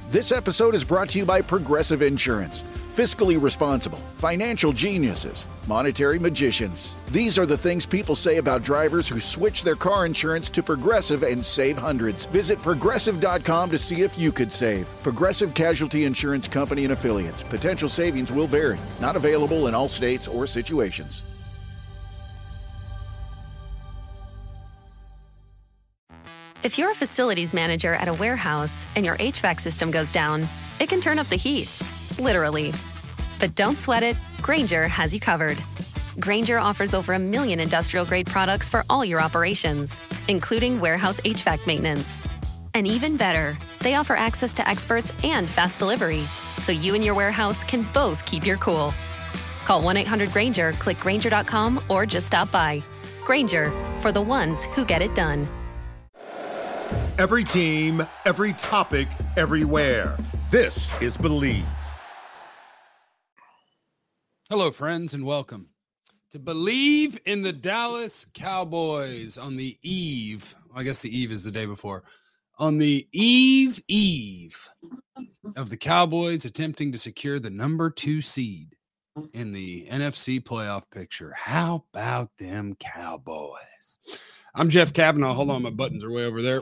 This episode is brought to you by Progressive Insurance. Fiscally responsible, financial geniuses, monetary magicians. These are the things people say about drivers who switch their car insurance to Progressive and save hundreds. Visit Progressive.com to see if you could save. Progressive Casualty Insurance Company and Affiliates. Potential savings will vary. Not available in all states or situations. If you're a facilities manager at a warehouse and your HVAC system goes down, it can turn up the heat, literally. But don't sweat it, Grainger has you covered. Grainger offers over 1 million industrial-grade products for all your operations, including warehouse HVAC maintenance. And even better, they offer access to experts and fast delivery, so you and your warehouse can both keep your cool. Call 1-800-GRAINGER, click Grainger.com, or just stop by. Grainger, for the ones who get it done. Every team, every topic, everywhere. This is Believe. Hello, friends, and welcome to Believe in the Dallas Cowboys on the eve. I guess the eve is the day before. On the eve of the Cowboys attempting to secure the number 2 seed in the NFC playoff picture. How about them Cowboys? I'm Jeff Kavanaugh. Hold on, my buttons are way over there.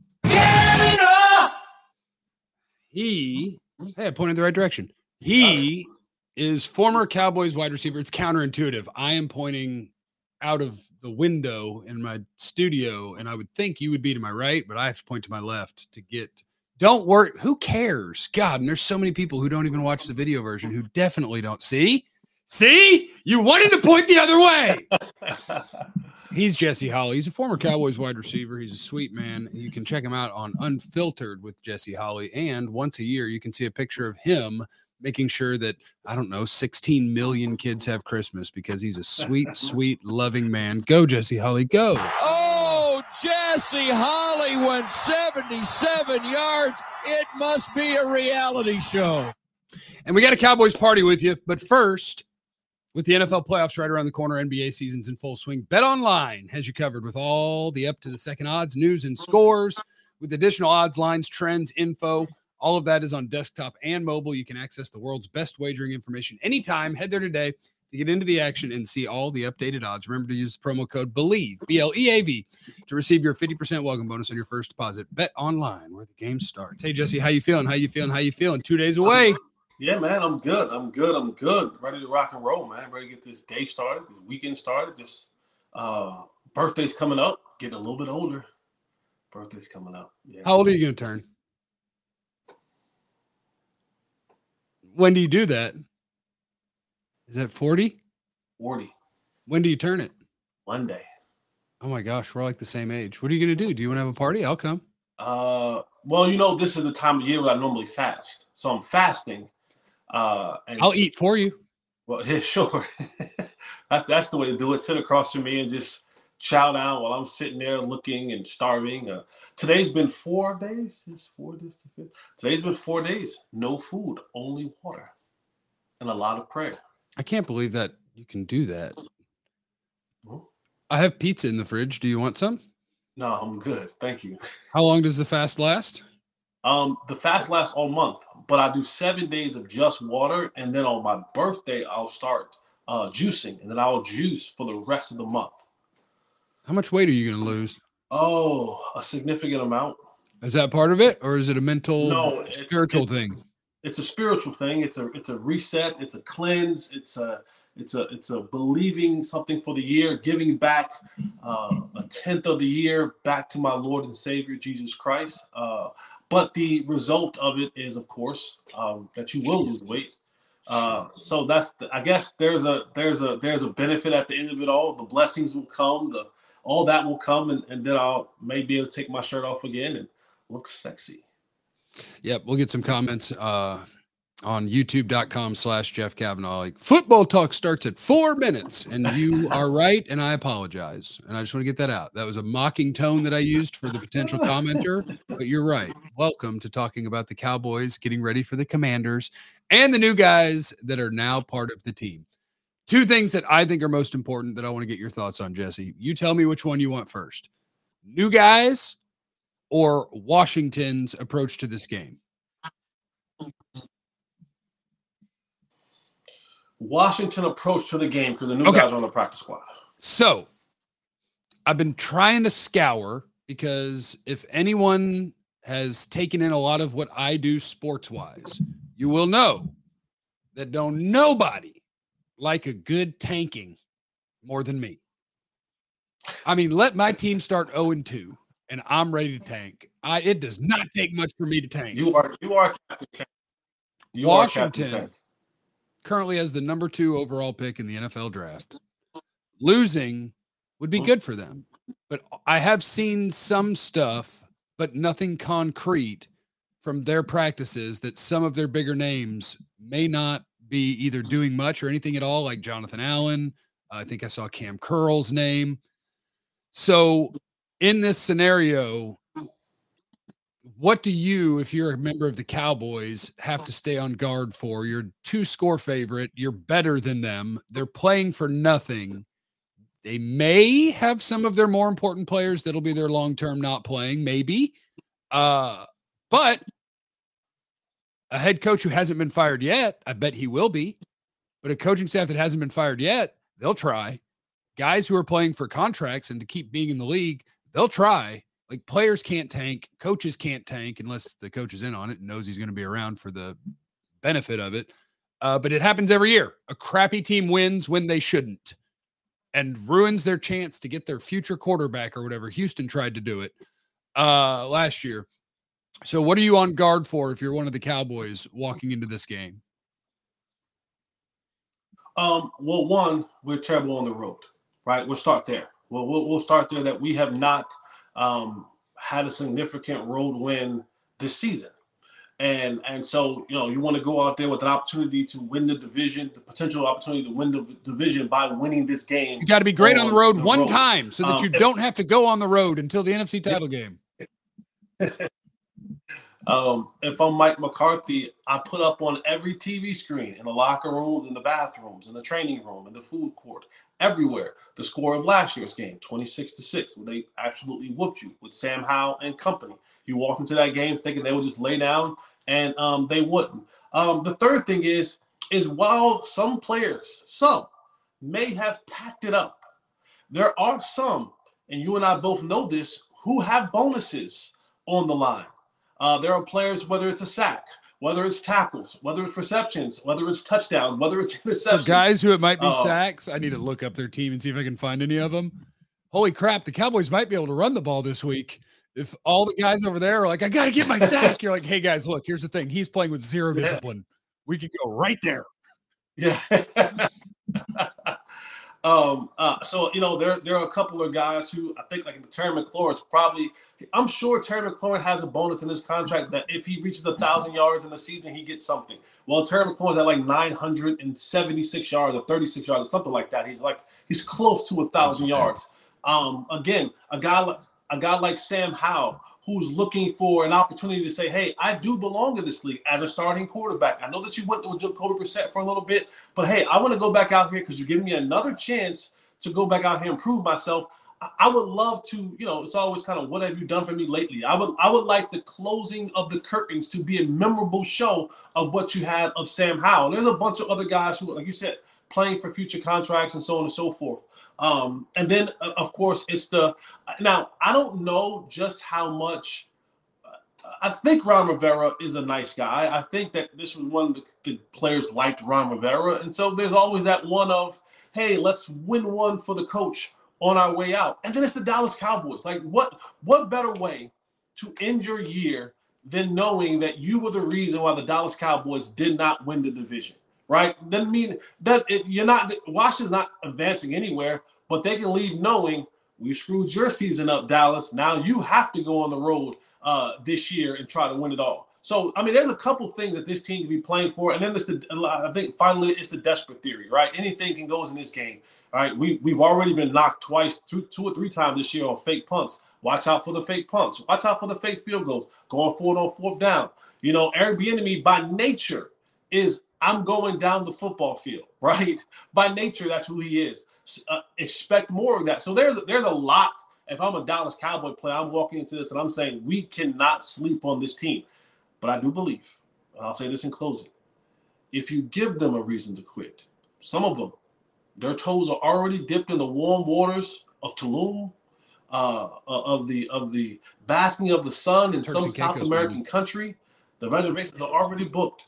Hey, I pointed the right direction. He is former Cowboys wide receiver. It's counterintuitive. I am pointing out of the window in my studio, and I would think you would be to my right, but I have to point to my left to get. Don't worry. Who cares? God, and there's so many people who don't even watch the video version who definitely don't see. See? You wanted to point the other way. He's Jesse Holley. He's a former Cowboys wide receiver. He's a sweet man. You can check him out on Unfiltered with Jesse Holley. And once a year, you can see a picture of him making sure that, 16 million kids have Christmas because he's a sweet, sweet, loving man. Go, Jesse Holley, go. Oh, Jesse Holley went 77 yards. It must be a reality show. And we got a Cowboys party with you. But first, with the NFL playoffs right around the corner, NBA season's in full swing, BetOnline has you covered with all the up-to-the-second odds, news, and scores. With additional odds, lines, trends, info, all of that is on desktop and mobile. You can access the world's best wagering information anytime. Head there today to get into the action and see all the updated odds. Remember to use the promo code BELIEVE, B-L-E-A-V, to receive your 50% welcome bonus on your first deposit. BetOnline, where the game starts. Hey, Jesse, how you feeling? 2 days away. Yeah, man, I'm good. Ready to rock and roll, man. Ready to get this day started, this weekend started. This birthday's coming up. Getting a little bit older. Birthday's coming up. Yeah. How old are you going to turn? When do you do that? Is that 40? 40. When do you turn it? Monday. Oh, my gosh. We're like the same age. What are you going to do? Do you want to have a party? I'll come. Well, this is the time of year where I normally fast. So I'm fasting. And I'll eat for you. Well, yeah, sure. that's the way to do it. Sit across from me and just chow down while I'm sitting there looking and starving. Today's been 4 days. Today's been 4 days. No food, only water, and a lot of prayer. I can't believe that you can do that. Hmm? I have pizza in the fridge. Do you want some? No, I'm good. Thank you. How long does the fast last? The fast lasts all month, but I do 7 days of just water, and then on my birthday, I'll start juicing, and then I'll juice for the rest of the month. How much weight are you going to lose? Oh, a significant amount. Is that part of it, or is it a mental, spiritual it's, thing? It's a spiritual thing. It's a reset. It's a cleanse. It's a believing something for the year, giving back a tenth of the year back to my Lord and Savior Jesus Christ. But the result of it is, of course, that you will lose weight. So I guess there's a benefit at the end of it all. The blessings will come. All that will come, and then I'll may be able to take my shirt off again and look sexy. Yep, we'll get some comments on youtube.com/Jeff Kavanaugh. Like, football talk starts at 4 minutes, and you are right, and I apologize. And I just want to get that out. That was a mocking tone that I used for the potential commenter, but you're right. Welcome to talking about the Cowboys getting ready for the Commanders and the new guys that are now part of the team. Two things that I think are most important that I want to get your thoughts on, Jesse. You tell me which one you want first. New guys or Washington's approach to this game? Washington approach to the game because the new guys are on the practice squad. So I've been trying to scour because if anyone has taken in a lot of what I do sports-wise, you will know that don't nobody like a good tanking more than me. I mean, let my team start 0-2 and I'm ready to tank. It does not take much for me to tank. You are Captain Tank. Washington currently has the number 2 overall pick in the NFL draft. Losing would be good for them. But I have seen some stuff, but nothing concrete from their practices that some of their bigger names may not be either doing much or anything at all, like Jonathan Allen. I think I saw Cam Curl's name. So in this scenario, what do you, if you're a member of the Cowboys, have to stay on guard for? You're 2-score favorite. You're better than them. They're playing for nothing. They may have some of their more important players that'll be their long-term not playing, maybe. But a head coach who hasn't been fired yet, I bet he will be. But a coaching staff that hasn't been fired yet, they'll try. Guys who are playing for contracts and to keep being in the league, they'll try. Like, players can't tank, coaches can't tank unless the coach is in on it and knows he's going to be around for the benefit of it. But it happens every year. A crappy team wins when they shouldn't and ruins their chance to get their future quarterback or whatever. Houston tried to do it last year. So what are you on guard for if you're one of the Cowboys walking into this game? Well, one, we're terrible on the road, right? We'll start there. We'll start there that we have not had a significant road win this season. And so, you want to go out there with an opportunity to win the division, the potential opportunity to win the division by winning this game. You got to be great on the road one time so that you don't have to go on the road until the NFC title game. If I'm Mike McCarthy, I put up on every TV screen, in the locker rooms, in the bathrooms, in the training room, in the food court, everywhere, the score of last year's game, 26-6, where they absolutely whooped you with Sam Howell and company. You walk into that game thinking they would just lay down, and they wouldn't. The third thing is while some players, may have packed it up, there are some, and you and I both know this, who have bonuses on the line. There are players, whether it's a sack, whether it's tackles, whether it's receptions, whether it's touchdowns, whether it's interceptions. For guys who it might be sacks, I need to look up their team and see if I can find any of them. Holy crap, the Cowboys might be able to run the ball this week. If all the guys over there are like, I got to get my sack, you're like, hey, guys, look, here's the thing. He's playing with zero discipline. We could go right there. Yeah. So, there are a couple of guys who I think, like Terry McLaurin is probably – I'm sure Terry McLaurin has a bonus in his contract that if he reaches 1,000 yards in the season, he gets something. Well, Terry McLaurin's at like 976 yards or 36 yards or something like that. He's close to 1,000 yards. Again, a guy like Sam Howell, who's looking for an opportunity to say, hey, I do belong in this league as a starting quarterback. I know that you went with Jacoby Brissett for a little bit, but hey, I want to go back out here because you're giving me another chance to go back out here and prove myself. I would love to, it's always kind of, what have you done for me lately? I would like the closing of the curtains to be a memorable show of what you had of Sam Howell. There's a bunch of other guys who, like you said, playing for future contracts and so on and so forth. And then, of course, now, I don't know just how much. I think Ron Rivera is a nice guy. I think that this was one of the players liked Ron Rivera. And so there's always that one of, hey, let's win one for the coach on our way out. And then it's the Dallas Cowboys. Like, what better way to end your year than knowing that you were the reason why the Dallas Cowboys did not win the division? Right? Doesn't mean that Washington's not advancing anywhere, but they can leave knowing we screwed your season up, Dallas. Now you have to go on the road this year and try to win it all. So, I mean, there's a couple things that this team can be playing for. And then I think finally it's the desperate theory, right? Anything can go in this game, right? We've already been knocked twice, two or three times this year on fake punts. Watch out for the fake punts. Watch out for the fake field goals. Going forward on fourth down. Eric Bieniemy by nature is I'm going down the football field, right? By nature, that's who he is. Expect more of that. So there's a lot. If I'm a Dallas Cowboy player, I'm walking into this and I'm saying we cannot sleep on this team. But I do believe, and I'll say this in closing, if you give them a reason to quit, some of them, their toes are already dipped in the warm waters of Tulum, of the basking of the sun in some South American country. The reservations are already booked.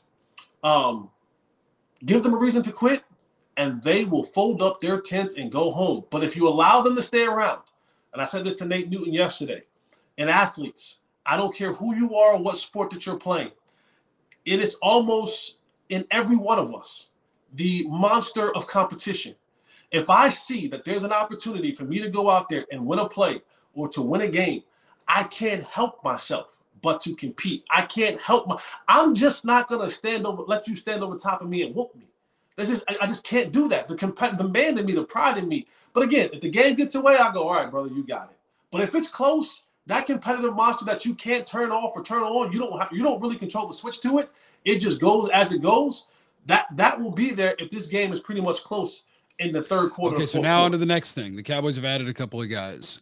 Give them a reason to quit, and they will fold up their tents and go home. But if you allow them to stay around, and I said this to Nate Newton yesterday, and athletes, I don't care who you are or what sport that you're playing, it is almost in every one of us, the monster of competition. If I see that there's an opportunity for me to go out there and win a play or to win a game, I can't help myself but to compete. I can't help I'm just not going to let you stand over top of me and whoop me. I just can't do that. The man in me, the pride in me. But again, if the game gets away, I go, all right, brother, you got it. But if it's close, that competitive monster that you can't turn off or turn on, you don't really control the switch to it. It just goes as it goes. That will be there if this game is pretty much close in the third quarter. Okay, so now on to the next thing. The Cowboys have added a couple of guys.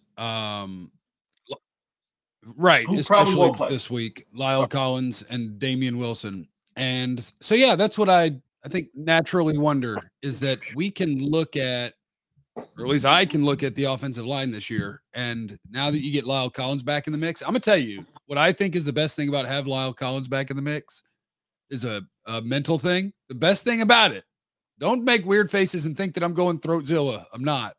Right, especially this week. Lyle Collins and Damian Wilson. And so, yeah, that's what I think naturally wonder is that we can look at, or at least I can look at the offensive line this year. And now that you get Lyle Collins back in the mix, I'm going to tell you what I think is the best thing about having Lyle Collins back in the mix is a mental thing. The best thing about it, don't make weird faces and think that I'm going Throatzilla. I'm not.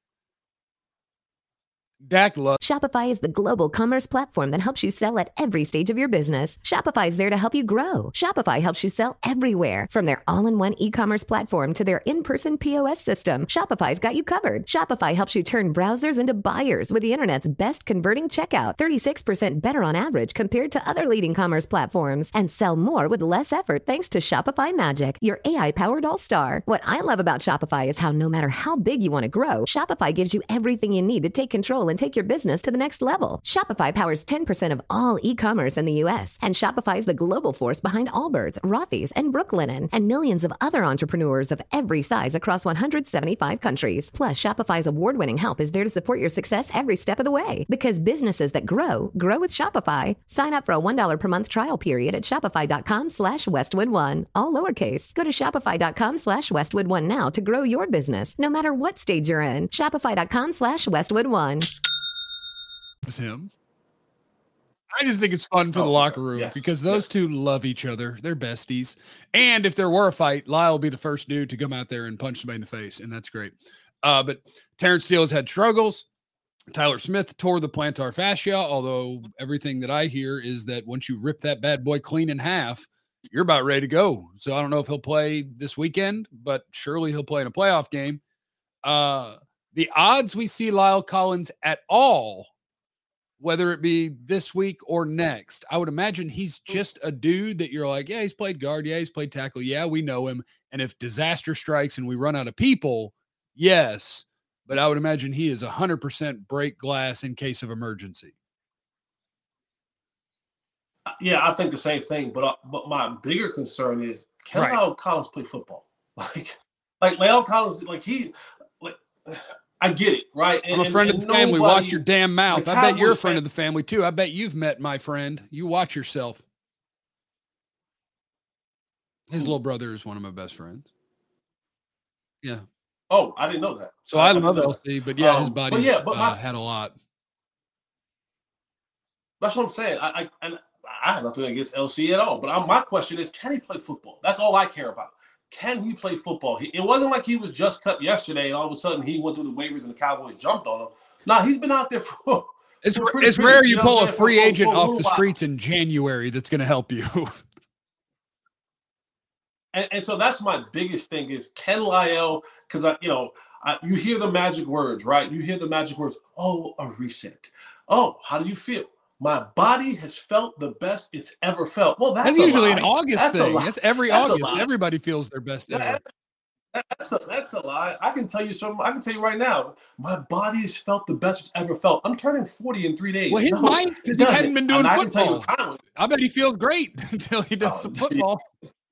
Shopify is the global commerce platform that helps you sell at every stage of your business. Shopify is there to help you grow. Shopify helps you sell everywhere, from their all-in-one e-commerce platform to their in-person POS system. Shopify's got you covered. Shopify helps you turn browsers into buyers with the internet's best converting checkout, 36% better on average compared to other leading commerce platforms, and sell more with less effort thanks to Shopify Magic, your AI-powered all-star. What I love about Shopify is how no matter how big you want to grow, Shopify gives you everything you need to take control and take your business to the next level. Shopify powers 10% of all e-commerce in the U.S., and Shopify is the global force behind Allbirds, Rothy's, and Brooklinen, and millions of other entrepreneurs of every size across 175 countries. Plus, Shopify's award-winning help is there to support your success every step of the way. Because businesses that grow with Shopify. Sign up for a $1 per month trial period at shopify.com/Westwood1, all lowercase. Go to shopify.com/Westwood1 now to grow your business, no matter what stage you're in. Shopify.com/Westwood1. Him. I just think it's fun for the locker room because those two love each other. They're besties. And if there were a fight, Lyle will be the first dude to come out there and punch somebody in the face, and that's great. But Terrence Steele has had struggles. Tyler Smith tore the plantar fascia, although everything that I hear is that once you rip that bad boy clean in half, you're about ready to go. So I don't know if he'll play this weekend, but surely he'll play in a playoff game. The odds we see Lyle Collins at all, whether it be this week or next, I would imagine he's just a dude that you're like, yeah, he's played guard. Yeah, he's played tackle. Yeah, we know him. And if disaster strikes and we run out of people, yes. But I would imagine he is 100% break glass in case of emergency. Yeah, I think the same thing. But my bigger concern is, can Lyle Collins play football? Like Lyle Collins, I get it, right? I'm a friend of the family. Watch your damn mouth. I bet you're a friend of the family, too. I bet you've met my friend. You watch yourself. His little brother is one of my best friends. Yeah. Oh, I didn't know that. So I love LC, but yeah, his body had a lot. That's what I'm saying. I have nothing against LC at all. But my question is, can he play football? That's all I care about. Can he play football? It wasn't like he was just cut yesterday and all of a sudden he went through the waivers and the Cowboys jumped on him. No, he's been out there for It's rare you pull a free agent off the streets in January that's going to help you. And so that's my biggest thing is, can Lyle, because you hear the magic words, right? You hear the magic words, oh, a reset. Oh, how do you feel? My body has felt the best it's ever felt. Well, that's usually an August thing. That's every August. Everybody feels their best ever. That's a lie. I can tell you something. I can tell you right now, my body has felt the best it's ever felt. I'm turning 40 in 3 days. Well, his mind, because he hadn't been doing football. I bet he feels great until he does some football.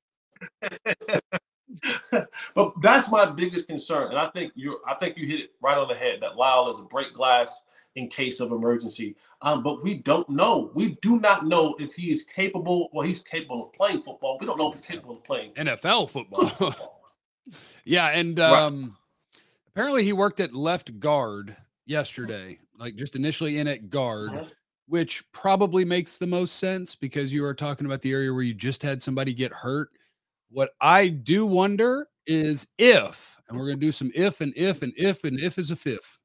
But that's my biggest concern, and I think you hit it right on the head. That Lyle is a break glass in case of emergency. But we don't know. We do not know if he is capable. Well, he's capable of playing football. We don't know if he's capable of playing NFL football. Yeah, and apparently he worked at left guard yesterday, like just initially in at guard, which probably makes the most sense because you are talking about the area where you just had somebody get hurt. What I do wonder is if, and we're going to do some if and if and if and if is a fifth.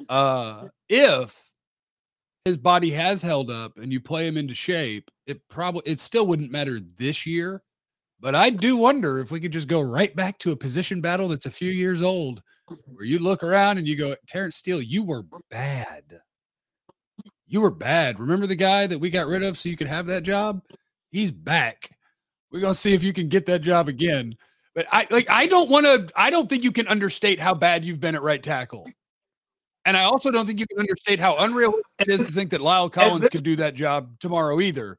If his body has held up and you play him into shape, it still wouldn't matter this year. But I do wonder if we could just go right back to a position battle that's a few years old, where you look around and you go, Terrence Steele, you were bad. You were bad. Remember the guy that we got rid of so you could have that job? He's back. We're going to see if you can get that job again. But I don't think you can understate how bad you've been at right tackle. And I also don't think you can understate how unrealistic it is to think that Lyle Collins could do that job tomorrow either.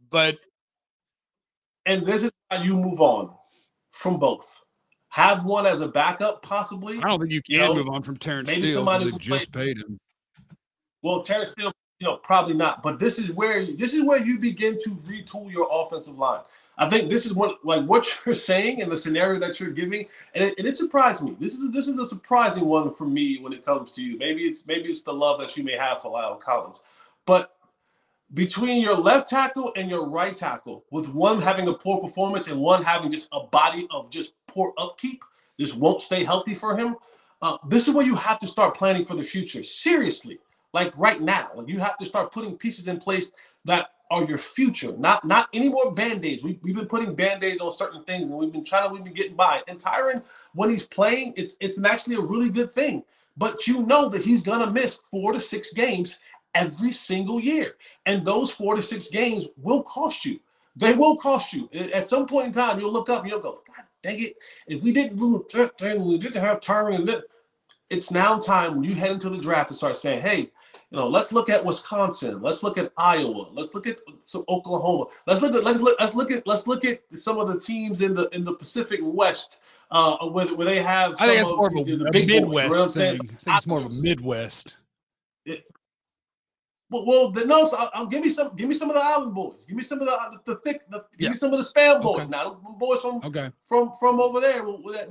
And this is how you move on from both. Have one as a backup, possibly. I don't think you can move on from Terrence Steele because they just paid him. Well, Terrence Steele, probably not. But this is where you begin to retool your offensive line. I think this is what you're saying and the scenario that you're giving, and it surprised me. This is a surprising one for me when it comes to you. Maybe it's the love that you may have for Lyle Collins, but between your left tackle and your right tackle, with one having a poor performance and one having just a body of just poor upkeep, this won't stay healthy for him. This is where you have to start planning for the future. Seriously, like right now, you have to start putting pieces in place that are your future, not any more Band-Aids. We've been putting Band-Aids on certain things, and we've been getting by. And Tyron, when he's playing, it's actually a really good thing. But you know that he's gonna miss 4 to 6 games every single year. And those 4 to 6 games will cost you. They will cost you. At some point in time, you'll look up and you'll go, God dang it, if we didn't lose, we didn't have Tyron. It's now time when you head into the draft to start saying, hey, let's look at Wisconsin. Let's look at Iowa. Let's look at Oklahoma. Let's look at some of the teams in the Pacific West where they have. I think it's more of a big Midwest boys, thing. I think it's more of a Midwest. Well, no. So I'll give me some of the Island boys. Give me some of the thick. Give me some of the spam boys. Okay. Now, boys from over there.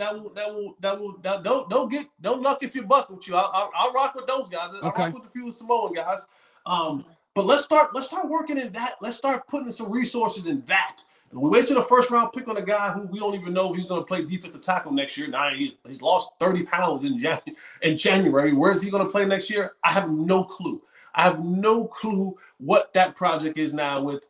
Don't luck if you buck with you. I'll rock with those guys. I'll rock with a few Samoan guys. But let's start working in that. Let's start putting some resources in that. We wasted a first round pick on a guy who we don't even know if he's going to play defensive tackle next year. Now he's lost 30 pounds in January. Where is he going to play next year? I have no clue. I have no clue what that project is now with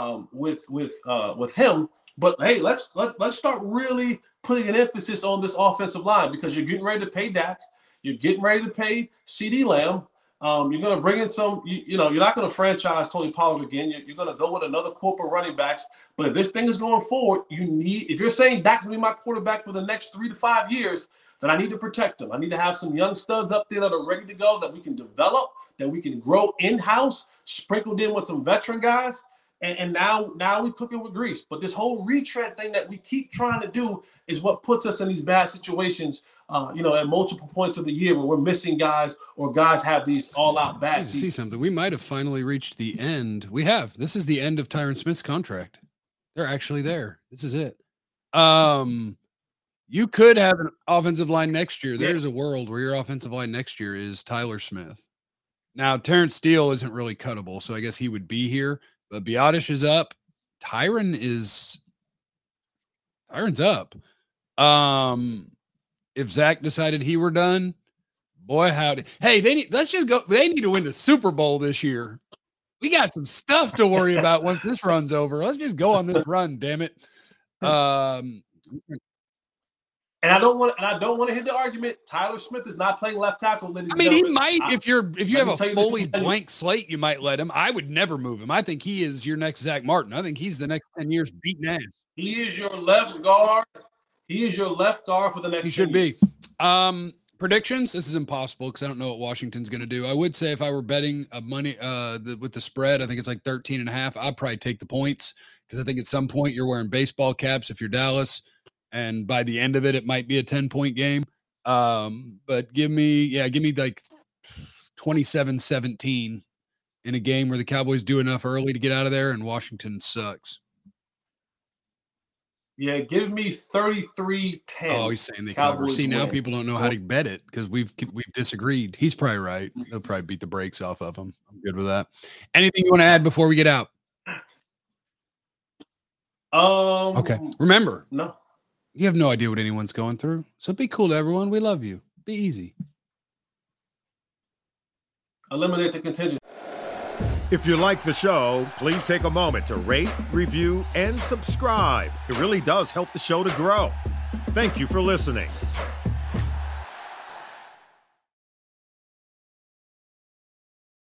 him. But hey, let's start really putting an emphasis on this offensive line, because you're getting ready to pay Dak, you're getting ready to pay CeeDee Lamb. You're going to bring in some. You're not going to franchise Tony Pollard again. You're going to go with another corporate running backs. But if this thing is going forward, if you're saying Dak will be my quarterback for the next 3 to 5 years, then I need to protect him. I need to have some young studs up there that are ready to go, that we can develop, that we can grow in-house, sprinkled in with some veteran guys. And now we're cooking with grease. But this whole retread thing that we keep trying to do is what puts us in these bad situations, at multiple points of the year where we're missing guys, or guys have these all-out bad seasons. See something. We might have finally reached the end. We have. This is the end of Tyron Smith's contract. They're actually there. This is it. You could have an offensive line next year. There's a world where your offensive line next year is Tyler Smith. Now, Terrence Steele isn't really cuttable, so I guess he would be here. But Biadasz is up. Tyron's up. If Zach decided he were done, boy, howdy. Hey, let's just go. They need to win the Super Bowl this year. We got some stuff to worry about once this run's over. Let's just go on this run, damn it. And I don't want to hit the argument. Tyler Smith is not playing left tackle. He might. If you have a fully blank slate, you might let him. I would never move him. I think he is your next Zach Martin. I think he's the next 10 years beating ass. He is your left guard. He is your left guard for the next. He should be. Predictions. This is impossible because I don't know what Washington's going to do. I would say if I were betting money with the spread, I think it's like 13.5. I'd probably take the points, because I think at some point you're wearing baseball caps if you're Dallas. And by the end of it, it might be a 10-point game. But give me like 27-17 in a game where the Cowboys do enough early to get out of there and Washington sucks. Yeah, give me 33-10. Oh, he's saying they cover. See, now people don't know how to bet it because we've disagreed. He's probably right. He'll probably beat the brakes off of him. I'm good with that. Anything you want to add before we get out? Okay. Remember, no. You have no idea what anyone's going through. So be cool to everyone. We love you. Be easy. Eliminate the contingency. If you like the show, please take a moment to rate, review, and subscribe. It really does help the show to grow. Thank you for listening.